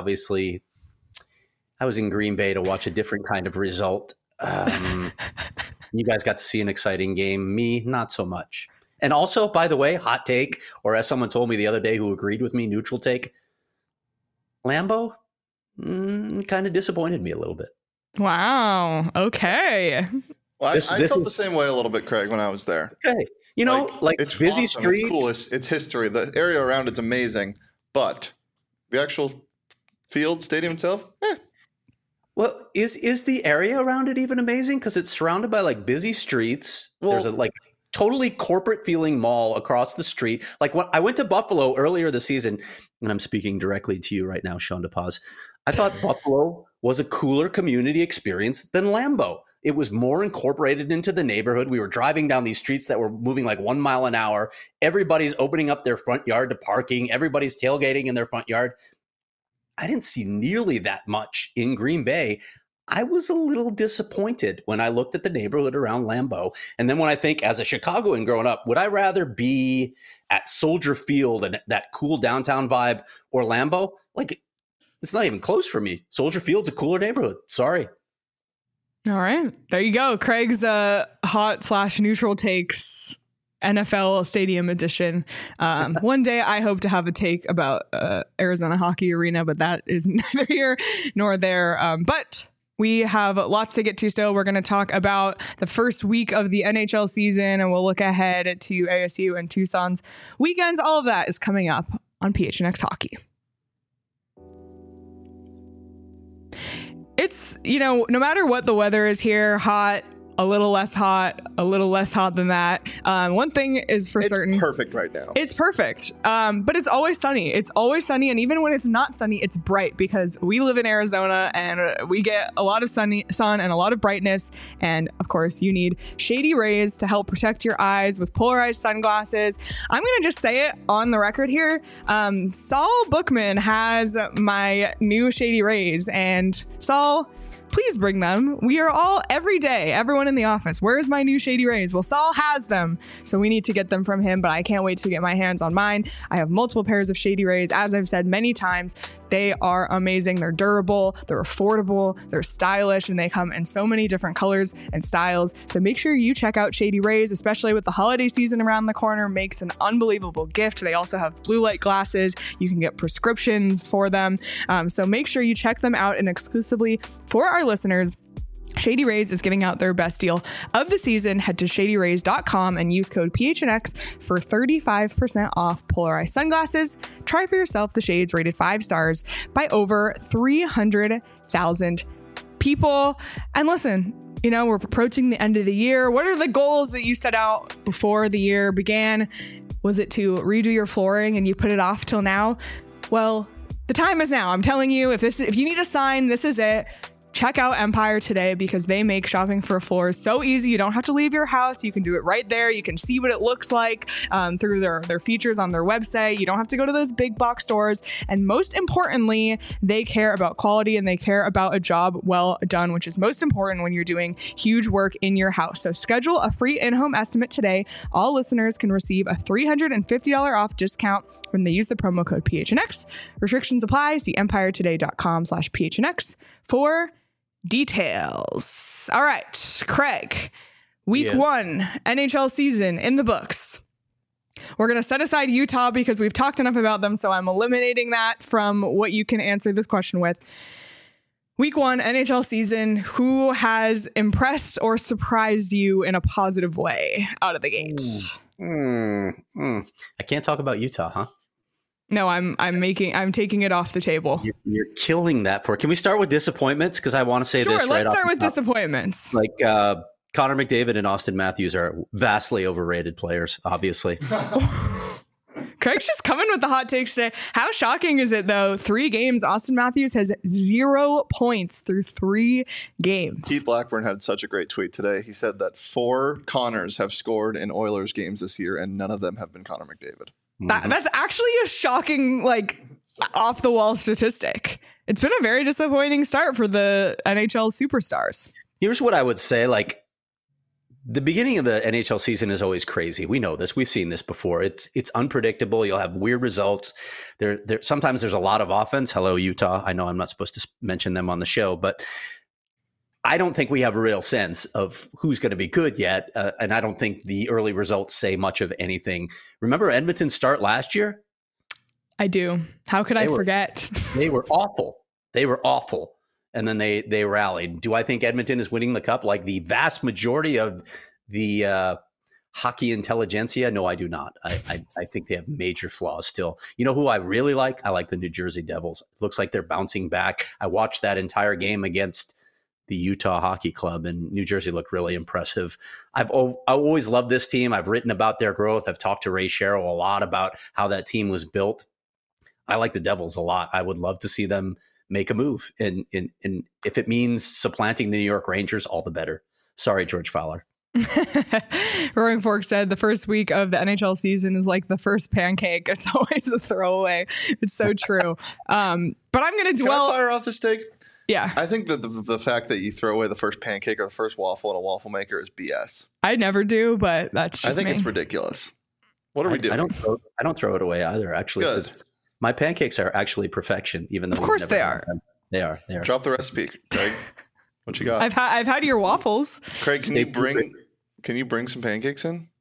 S2: in Green Bay to watch a different kind of result. You guys got to see an exciting game. Me, not so much. And also, by the way, hot take, or as someone told me the other day who agreed with me, neutral take, Lambeau kind of disappointed me a little bit.
S1: Wow. Okay.
S3: Well, I felt the same way a little bit, Craig, when I was there.
S2: Okay. It's busy
S3: awesome.
S2: streets.
S3: It's cool. It's history. The area around it's amazing, but the actual field, stadium itself,
S2: Well, is the area around it even amazing? Because it's surrounded by like busy streets. There's a like totally corporate feeling mall across the street. Like when I went to Buffalo earlier this season, and I'm speaking directly to you right now, Sean DePaz. I thought Buffalo was a cooler community experience than Lambeau. It was more incorporated into the neighborhood. We were driving down these streets that were moving like 1 mile an hour. Everybody's opening up their front yard to parking. Everybody's tailgating in their front yard. I didn't see nearly that much in Green Bay. I was a little disappointed when I looked at the neighborhood around Lambeau. And then when I think as a Chicagoan growing up, would I rather be at Soldier Field and that cool downtown vibe or Lambeau? Like, it's not even close for me. Soldier Field's a cooler neighborhood. Sorry.
S1: All right. There you go. Craig's hot/neutral takes NFL Stadium Edition. One day I hope to have a take about Arizona Hockey Arena, but that is neither here nor there. But we have lots to get to still. We're going to talk about the first week of the NHL season, and we'll look ahead to ASU and Tucson's weekends. All of that is coming up on PHNX Hockey. It's, no matter what the weather is here, hot, a little less hot than that. One thing is for certain.
S3: It's perfect right now.
S1: It's perfect. But it's always sunny. It's always sunny. And even when it's not sunny, it's bright because we live in Arizona and we get a lot of sun and a lot of brightness. And of course, you need Shady Rays to help protect your eyes with polarized sunglasses. I'm going to just say it on the record here. Saul Bookman has my new Shady Rays. And Saul, please bring them. We are all, every day, everyone in the office, where's my new Shady Rays? Well, Saul has them, so we need to get them from him, but I can't wait to get my hands on mine. I have multiple pairs of Shady Rays. As I've said many times, they are amazing. They're durable, they're affordable, they're stylish, and they come in so many different colors and styles. So make sure you check out Shady Rays, especially with the holiday season around the corner. Makes an unbelievable gift. They also have blue light glasses. You can get prescriptions for them. So make sure you check them out, and exclusively for our listeners, Shady Rays is giving out their best deal of the season. Head to shadyrays.com and use code PHNX for 35% off polarized sunglasses. Try for yourself the shades rated 5 stars by over 300,000 people. And listen, we're approaching the end of the year. What are the goals that you set out before the year began? Was it to redo your flooring and you put it off till now? Well, the time is now. I'm telling you, if you need a sign, this is it. Check out Empire today because they make shopping for floors so easy. You don't have to leave your house. You can do it right there. You can see what it looks like through their features on their website. You don't have to go to those big box stores. And most importantly, they care about quality and they care about a job well done, which is most important when you're doing huge work in your house. So schedule a free in-home estimate today. All listeners can receive a $350 off discount when they use the promo code PHNX. Restrictions apply. See empiretoday.com/PHNX for details. All right, Craig, week 1 NHL season in the books. We're going to set aside Utah because we've talked enough about them, so I'm eliminating that from what you can answer this question with. Week 1 NHL season, who has impressed or surprised you in a positive way out of the gate?
S2: I can't talk about Utah, huh?
S1: No, I'm taking it off the table.
S2: You're killing that for. Can we start with disappointments? Because I want to say this.
S1: Sure, let's start with disappointments.
S2: Like Connor McDavid and Austin Matthews are vastly overrated players, obviously.
S1: Craig's just coming with the hot takes today. How shocking is it, though? 3 games. Austin Matthews has 0 points through 3 games.
S3: Keith Blackburn had such a great tweet today. He said that 4 Connors have scored in Oilers games this year, and none of them have been Connor McDavid.
S1: That's actually a shocking, off the wall statistic. It's been a very disappointing start for the NHL superstars.
S2: Here's what I would say. The beginning of the NHL season is always crazy. We know this. We've seen this before. It's unpredictable. You'll have weird results. Sometimes there's a lot of offense. Hello, Utah. I know I'm not supposed to mention them on the show, but I don't think we have a real sense of who's going to be good yet. And I don't think the early results say much of anything. Remember Edmonton's start last year?
S1: I do. How could I forget?
S2: They were awful. And then they rallied. Do I think Edmonton is winning the cup like the vast majority of the hockey intelligentsia? No, I do not. I think they have major flaws still. You know who I really like? I like the New Jersey Devils. It looks like they're bouncing back. I watched that entire game against the Utah Hockey Club, and New Jersey looked really impressive. I always loved this team. I've written about their growth. I've talked to Ray Sherrill a lot about how that team was built. I like the Devils a lot. I would love to see them make a move. And if it means supplanting the New York Rangers, all the better. Sorry, George Fowler.
S1: Roaring Fork said the first week of the NHL season is like the first pancake. It's always a throwaway. It's so true. But I'm going to dwell.
S3: Can I fire off this take?
S1: Yeah.
S3: I think that the fact that you throw away the first pancake or the first waffle in a waffle maker is BS.
S1: I never do, but that's just
S3: I think
S1: me.
S3: it's ridiculous. What are we doing?
S2: I don't throw it away either, actually.
S3: Good.
S2: My pancakes are actually perfection, even though
S1: of course they are.
S2: They are.
S3: Drop the recipe, Craig. What you got?
S1: I've had your waffles.
S3: Craig, can you bring some pancakes in?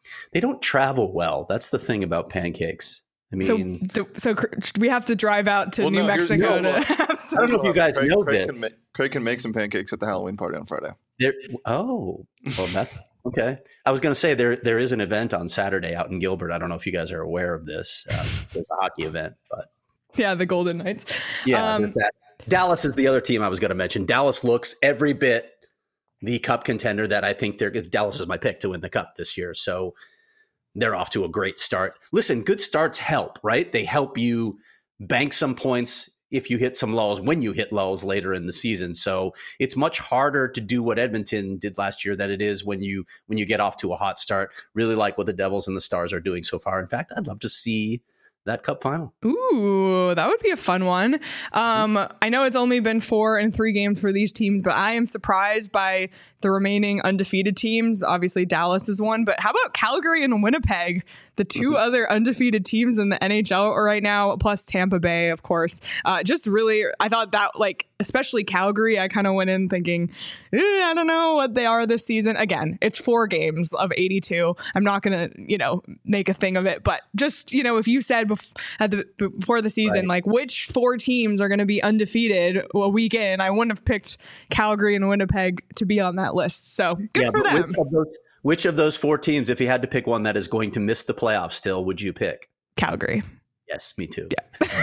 S2: they don't travel well. That's the thing about pancakes. I mean,
S1: so we have to drive out to New Mexico to have some.
S2: I don't know if you guys know this.
S3: Craig can make some pancakes at the Halloween party on Friday.
S2: Well, that's okay. I was going to say there is an event on Saturday out in Gilbert. I don't know if you guys are aware of this. There's a hockey event, but
S1: yeah, the Golden Knights.
S2: Yeah, Dallas is the other team I was going to mention. Dallas looks every bit the cup contender that I think Dallas is my pick to win the cup this year. So they're off to a great start. Listen, good starts help, right? They help you bank some points if you hit some lulls, when you hit lulls later in the season. So it's much harder to do what Edmonton did last year than it is when you get off to a hot start. Really like what the Devils and the Stars are doing so far. In fact, I'd love to see that cup final.
S1: Ooh, that would be a fun one. I know it's only been 4 and 3 games for these teams, but I am surprised by the remaining undefeated teams. Obviously, Dallas is one, but how about Calgary and Winnipeg, the 2 other undefeated teams in the NHL right now, plus Tampa Bay, of course. Just really, I thought that, like, especially Calgary, I kind of went in thinking, I don't know what they are this season. Again, it's 4 games of 82. I'm not going to, make a thing of it, but just, if you said before the season, right, like which 4 teams are going to be undefeated a week in, I wouldn't have picked Calgary and Winnipeg to be on that list. So good for them.
S2: Which of those 4 teams, if you had to pick one that is going to miss the playoffs still, would you pick?
S1: Calgary.
S2: Yes, me too.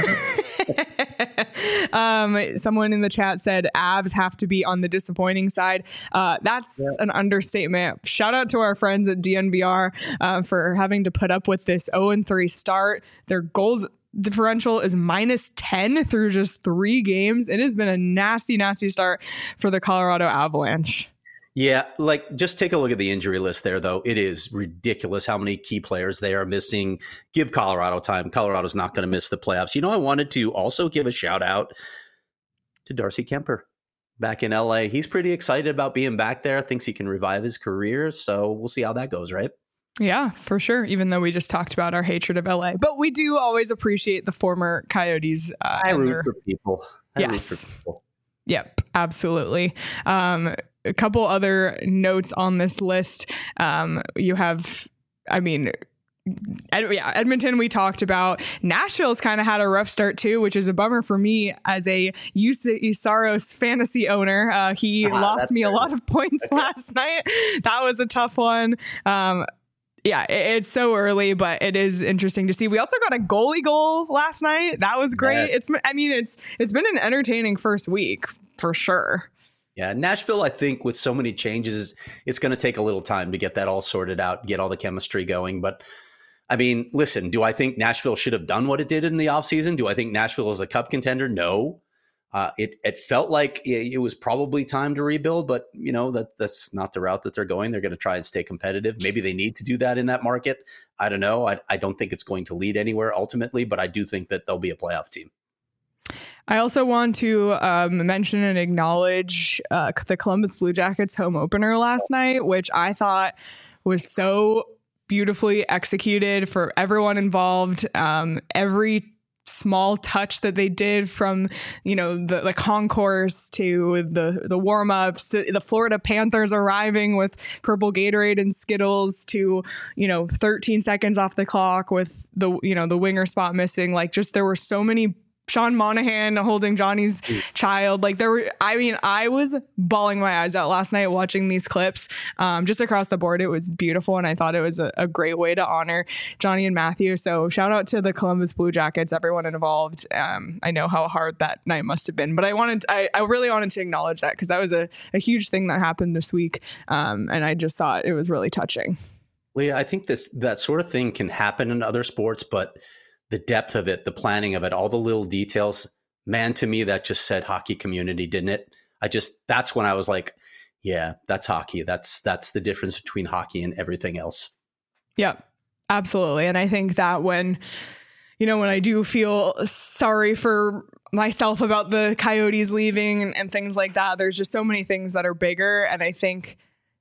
S1: Yeah. Someone in the chat said Avs have to be on the disappointing side. That's an understatement. Shout out to our friends at DNVR for having to put up with this 0-3 start. Their goals differential is -10 through just 3 games. It has been a nasty, nasty start for the Colorado Avalanche.
S2: Yeah, like just take a look at the injury list there, though. It is ridiculous how many key players they are missing. Give Colorado time. Colorado's not going to miss the playoffs. I wanted to also give a shout out to Darcy Kemper back in LA. He's pretty excited about being back there, thinks he can revive his career. So we'll see how that goes, right?
S1: Yeah, for sure. Even though we just talked about our hatred of LA, but we do always appreciate the former Coyotes.
S2: I root for people.
S1: Yes. Yep, absolutely. A couple other notes on this list. You have, Edmonton we talked about. Nashville's kind of had a rough start too, which is a bummer for me as a Juuse Saros fantasy owner. He lost me a lot of points last night. That was a tough one. It's so early, but it is interesting to see. We also got a goalie goal last night. That was great. Yes. It's been an entertaining first week for sure.
S2: Yeah, Nashville, I think with so many changes, it's going to take a little time to get that all sorted out, get all the chemistry going. But listen, do I think Nashville should have done what it did in the offseason? Do I think Nashville is a cup contender? No. It felt like it was probably time to rebuild, but that's not the route that they're going. They're going to try and stay competitive. Maybe they need to do that in that market. I don't know. I don't think it's going to lead anywhere ultimately, but I do think that they'll be a playoff team.
S1: I also want to mention and acknowledge the Columbus Blue Jackets home opener last night, which I thought was so beautifully executed for everyone involved. Every small touch that they did from, the concourse to the warm-ups to the Florida Panthers arriving with purple Gatorade and Skittles to, 13 seconds off the clock with the winger spot missing. Like there were so many. Sean Monahan holding Johnny's child. I was bawling my eyes out last night watching these clips. Just across the board, it was beautiful. And I thought it was a great way to honor Johnny and Matthew. So shout out to the Columbus Blue Jackets, everyone involved. I know how hard that night must have been, but I really wanted to acknowledge that because that was a huge thing that happened this week. And I just thought it was really touching.
S2: Leah, I think that sort of thing can happen in other sports, but the depth of it, the planning of it, all the little details, man, to me, that just said hockey community, didn't it? That's when I was like, yeah, that's hockey. That's the difference between hockey and everything else.
S1: Yeah, absolutely. And I think that when I do feel sorry for myself about the Coyotes leaving and things like that, there's just so many things that are bigger. And I think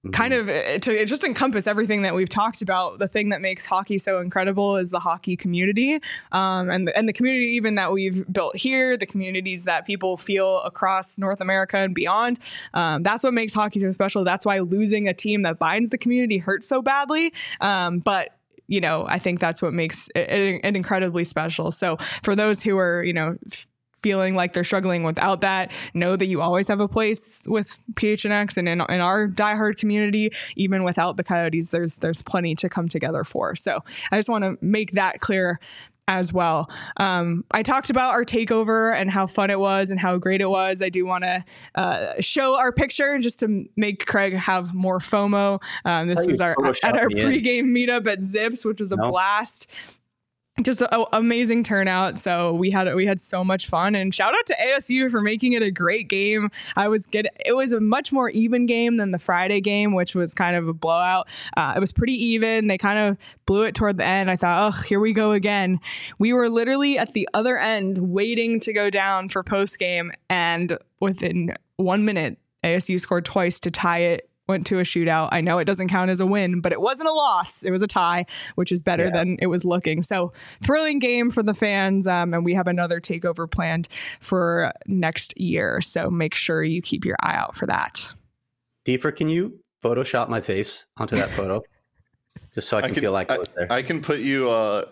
S1: kind of to just encompass everything that we've talked about, the thing that makes hockey so incredible is the hockey community, and the community even that we've built here, the communities that people feel across North America and beyond. That's what makes hockey so special. That's why losing a team that binds the community hurts so badly. But I think that's what makes it incredibly special. So for those who are, feeling like they're struggling without that, know that you always have a place with PHNX, and in our diehard community, even without the Coyotes, there's plenty to come together for. So I just want to make that clear as well. I talked about our takeover and how fun it was and how great it was. I do want to show our picture just to make Craig have more FOMO. This was at our pregame meetup at Zips, which was a blast. Just an amazing turnout. So we had so much fun, and shout out to ASU for making it a great game. It was a much more even game than the Friday game, which was kind of a blowout. It was pretty even. They kind of blew it toward the end. I thought, oh, here we go again. We were literally at the other end waiting to go down for post game, and within 1 minute, ASU scored twice to tie it. Went to a shootout. I know it doesn't count as a win, but it wasn't a loss. It was a tie, which is better than it was looking. So thrilling game for the fans. And we have another takeover planned for next year. So make sure you keep your eye out for that.
S2: Deefer, can you Photoshop my face onto that photo? Just so I can feel like I was there.
S3: I can put you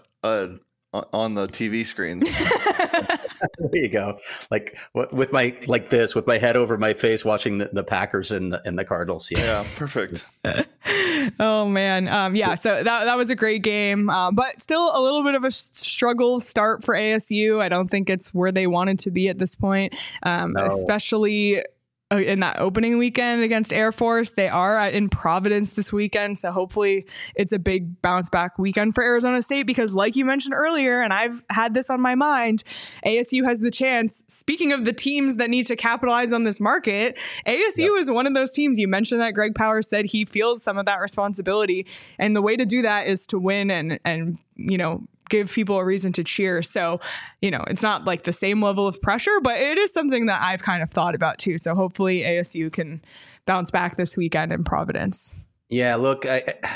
S3: on the TV screens.
S2: There you go. Like with my head over my face, watching the Packers and the Cardinals.
S3: Yeah, perfect.
S1: Oh man, So that was a great game, but still a little bit of a struggle start for ASU. I don't think it's where they wanted to be at this point, especially in that opening weekend against Air Force. They are in Providence this weekend, so hopefully it's a big bounce back weekend for Arizona State, because like you mentioned earlier, and I've had this on my mind, ASU has the chance, speaking of the teams that need to capitalize on this market, ASU is one of those teams. You mentioned that Greg Powers said he feels some of that responsibility, and the way to do that is to win and give people a reason to cheer. So, it's not like the same level of pressure, but it is something that I've kind of thought about too. So hopefully ASU can bounce back this weekend in Providence.
S2: Yeah, look,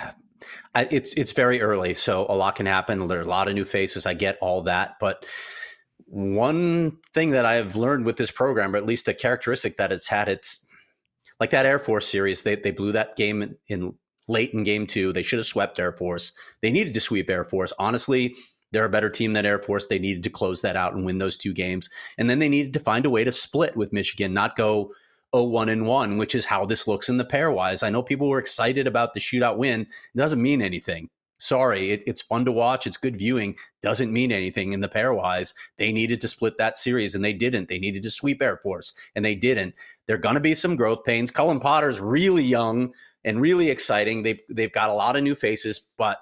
S2: it's very early, so a lot can happen. There are a lot of new faces. I get all that. But one thing that I've learned with this program, or at least a characteristic that it's had, it's like that Air Force series. They blew that game in late in game 2. They should have swept Air Force. They needed to sweep Air Force. Honestly, they're a better team than Air Force. They needed to close that out and win those 2 games. And then they needed to find a way to split with Michigan, not go 0-1-1, which is how this looks in the pairwise. I know people were excited about the shootout win. It doesn't mean anything. Sorry, it's fun to watch. It's good viewing. Doesn't mean anything in the pairwise. They needed to split that series, and they didn't. They needed to sweep Air Force, and they didn't. There are going to be some growth pains. Cullen Potter's really young and really exciting. They've got a lot of new faces, but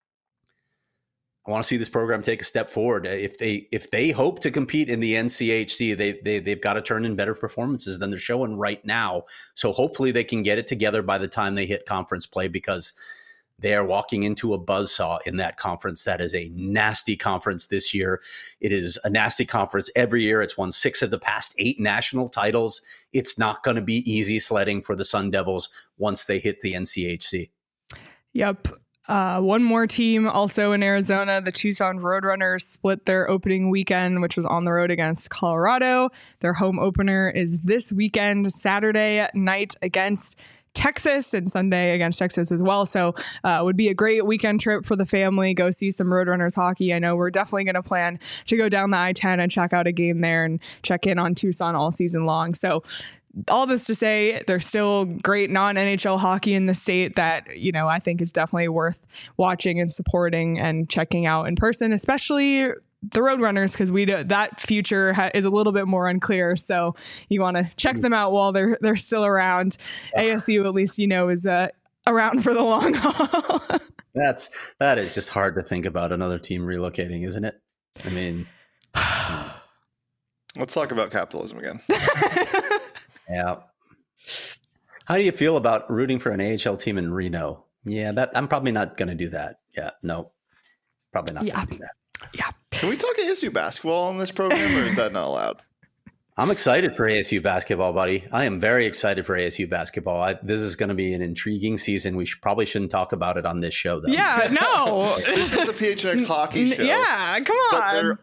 S2: I want to see this program take a step forward. If they hope to compete in the NCHC, they've got to turn in better performances than they're showing right now. So hopefully they can get it together by the time they hit conference play, because they are walking into a buzzsaw in that conference. That is a nasty conference this year. It is a nasty conference every year. It's won 6 of the past 8 national titles. It's not going to be easy sledding for the Sun Devils once they hit the NCHC.
S1: Yep. One more team also in Arizona, the Tucson Roadrunners, split their opening weekend, which was on the road against Colorado. Their home opener is this weekend, Saturday night against Texas, and Sunday against Texas as well. So it would be a great weekend trip for the family. Go see some Roadrunners hockey. I know we're definitely going to plan to go down the I-10 and check out a game there and check in on Tucson all season long. So all this to say, there's still great non-NHL hockey in the state that, I think is definitely worth watching and supporting and checking out in person, especially the Roadrunners, because that future is a little bit more unclear. So you want to check them out while they're still around. ASU, at least, is around for the long haul.
S2: That is just hard to think about another team relocating, isn't it? I mean,
S3: let's talk about capitalism again.
S2: Yeah. How do you feel about rooting for an AHL team in Reno? Yeah, I'm probably not going to do that. Yeah, no, probably not going to do that.
S1: Yeah.
S3: Can we talk ASU basketball on this program, or is that not allowed?
S2: I'm excited for ASU basketball, buddy. I am very excited for ASU basketball. This is going to be an intriguing season. We probably shouldn't talk about it on this show, though.
S1: Yeah, no.
S3: This is the PHNX hockey show.
S1: Yeah, come on.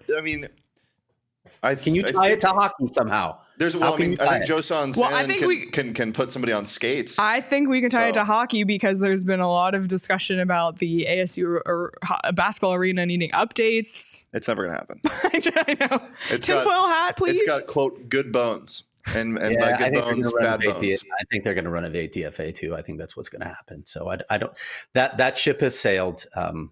S2: Can you tie it to hockey somehow?
S3: I think Joe Son can put somebody on skates.
S1: I think we can tie it to hockey because there's been a lot of discussion about the ASU or basketball arena needing updates.
S3: It's never going to happen.
S1: I know. Tinfoil hat, please.
S3: It's got, quote, good bones. And by good bones, bad bones.
S2: I think they're going to run a ATFA too. I think that's what's going to happen. So I don't. That ship has sailed.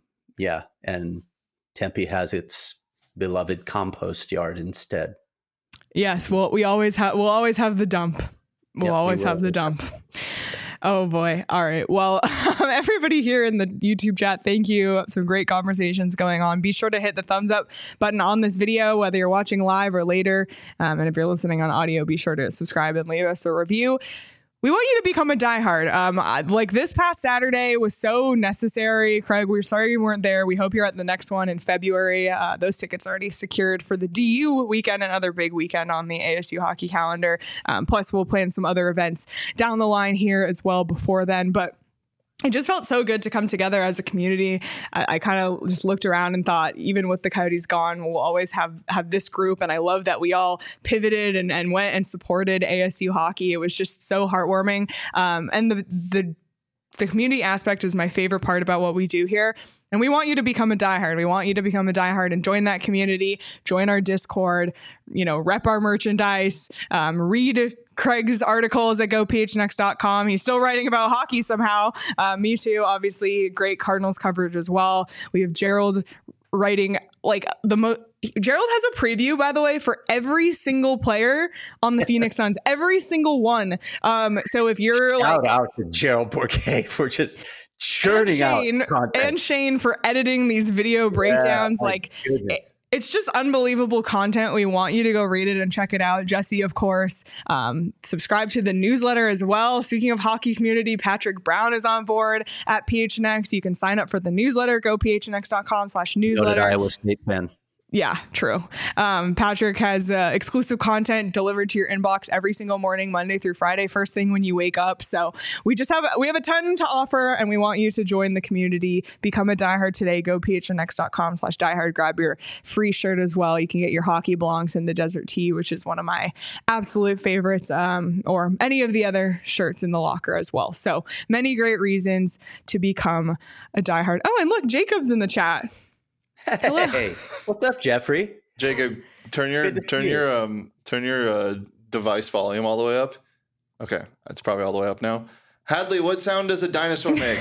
S2: And Tempe has its beloved compost yard instead.
S1: Yes, well, we'll always have the dump. We'll always have the dump. Oh boy. All right. Well, everybody here in the YouTube chat, thank you. Some great conversations going on. Be sure to hit the thumbs up button on this video, whether you're watching live or later. And if you're listening on audio, be sure to subscribe and leave us a review. We want you to become a diehard. Like this past Saturday was so necessary. Craig, we're sorry you weren't there. We hope you're at the next one in February. Those tickets are already secured for the DU weekend, another big weekend on the ASU hockey calendar. Plus, we'll plan some other events down the line here as well before then. But it just felt so good to come together as a community. I kind of just looked around and thought, even with the Coyotes gone, we'll always have this group. And I love that we all pivoted and went and supported ASU hockey. It was just so heartwarming. And the community aspect is my favorite part about what we do here. And we want you to become a diehard. We want you to become a diehard and join that community, join our Discord, rep our merchandise, read Craig's articles at gophnx.com. He's still writing about hockey somehow. Me too. Obviously, great Cardinals coverage as well. We have Gerald writing Gerald has a preview, by the way, for every single player on the Phoenix Suns, every single one. So if you're
S2: shout out to Gerald Bourquet for just churning out content.
S1: And Shane for editing these video breakdowns. It's just unbelievable content. We want you to go read it and check it out. Jesse, of course, subscribe to the newsletter as well. Speaking of hockey community, Patrick Brown is on board at PHNX. You can sign up for the newsletter. Go phnx.com/newsletter.
S2: Noted Iowa State fan.
S1: Yeah, true. Patrick has exclusive content delivered to your inbox every single morning, Monday through Friday, first thing when you wake up. So we have a ton to offer, and we want you to join the community. Become a diehard today. Go phnx.com/diehard. Grab your free shirt as well. You can get your hockey belongs in the Desert Tee, which is one of my absolute favorites, or any of the other shirts in the locker as well. So many great reasons to become a diehard. Oh, and look, Jacob's in the chat.
S2: Hey, what's up, Jeffrey?
S3: Jacob, turn your device volume all the way up. Okay, that's probably all the way up now. Hadley, what sound does a dinosaur make?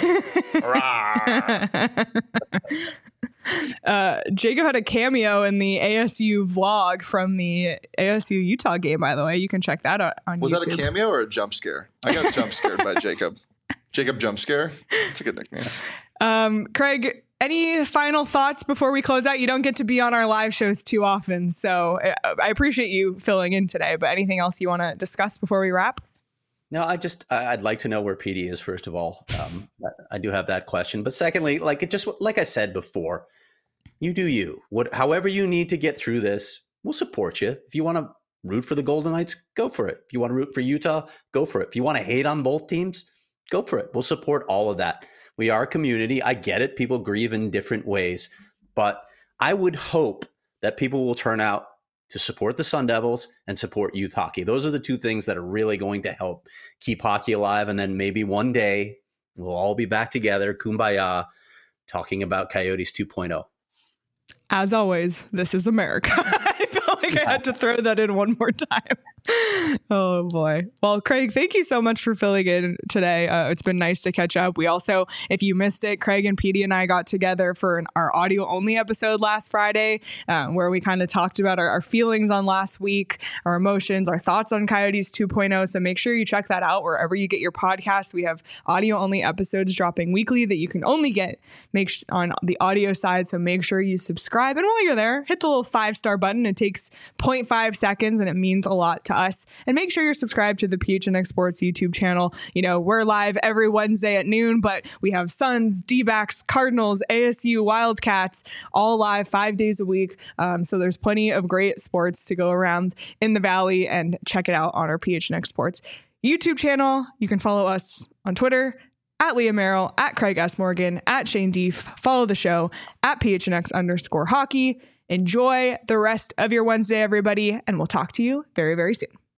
S1: Jacob had a cameo in the ASU vlog from the ASU Utah game, by the way. You can check that out on YouTube.
S3: Was that a cameo or a jump scare? I got jump scared by Jacob. Jacob Jump Scare. It's a good nickname.
S1: Craig, any final thoughts before we close out? You don't get to be on our live shows too often, so I appreciate you filling in today, but anything else you want to discuss before we wrap?
S2: No, I'd like to know where PD is, first of all. I do have that question. But secondly, like I said before, you do you. However you need to get through this, we'll support you. If you want to root for the Golden Knights, go for it. If you want to root for Utah, go for it. If you want to hate on both teams, go for it. We'll support all of that. We are a community. I get it. People grieve in different ways. But I would hope that people will turn out to support the Sun Devils and support youth hockey. Those are the two things that are really going to help keep hockey alive. And then maybe one day we'll all be back together, kumbaya, talking about Coyotes 2.0.
S1: As always, this is America. I felt like I had to throw that in one more time. Oh boy. Well, Craig, thank you so much for filling in today. It's been nice to catch up. We also, if you missed it, Craig and PD and I got together for our audio only episode last Friday, where we kind of talked about our feelings on last week, our emotions, our thoughts on Coyotes 2.0. So make sure you check that out wherever you get your podcasts. We have audio only episodes dropping weekly that you can only get on the audio side. So make sure you subscribe. And while you're there, hit the little 5-star button. It takes 0.5 seconds and it means a lot to us. And make sure you're subscribed to the PHNX Sports YouTube channel. You know, we're live every Wednesday at noon, but we have Suns, D-backs, Cardinals, ASU, Wildcats, all live 5 days a week. So there's plenty of great sports to go around in the Valley, and check it out on our PHNX Sports YouTube channel. You can follow us on Twitter at Leah Merrill, at Craig S. Morgan, at Shane Deef. Follow the show at PHNX_hockey. Enjoy the rest of your Wednesday, everybody, and we'll talk to you very, very soon.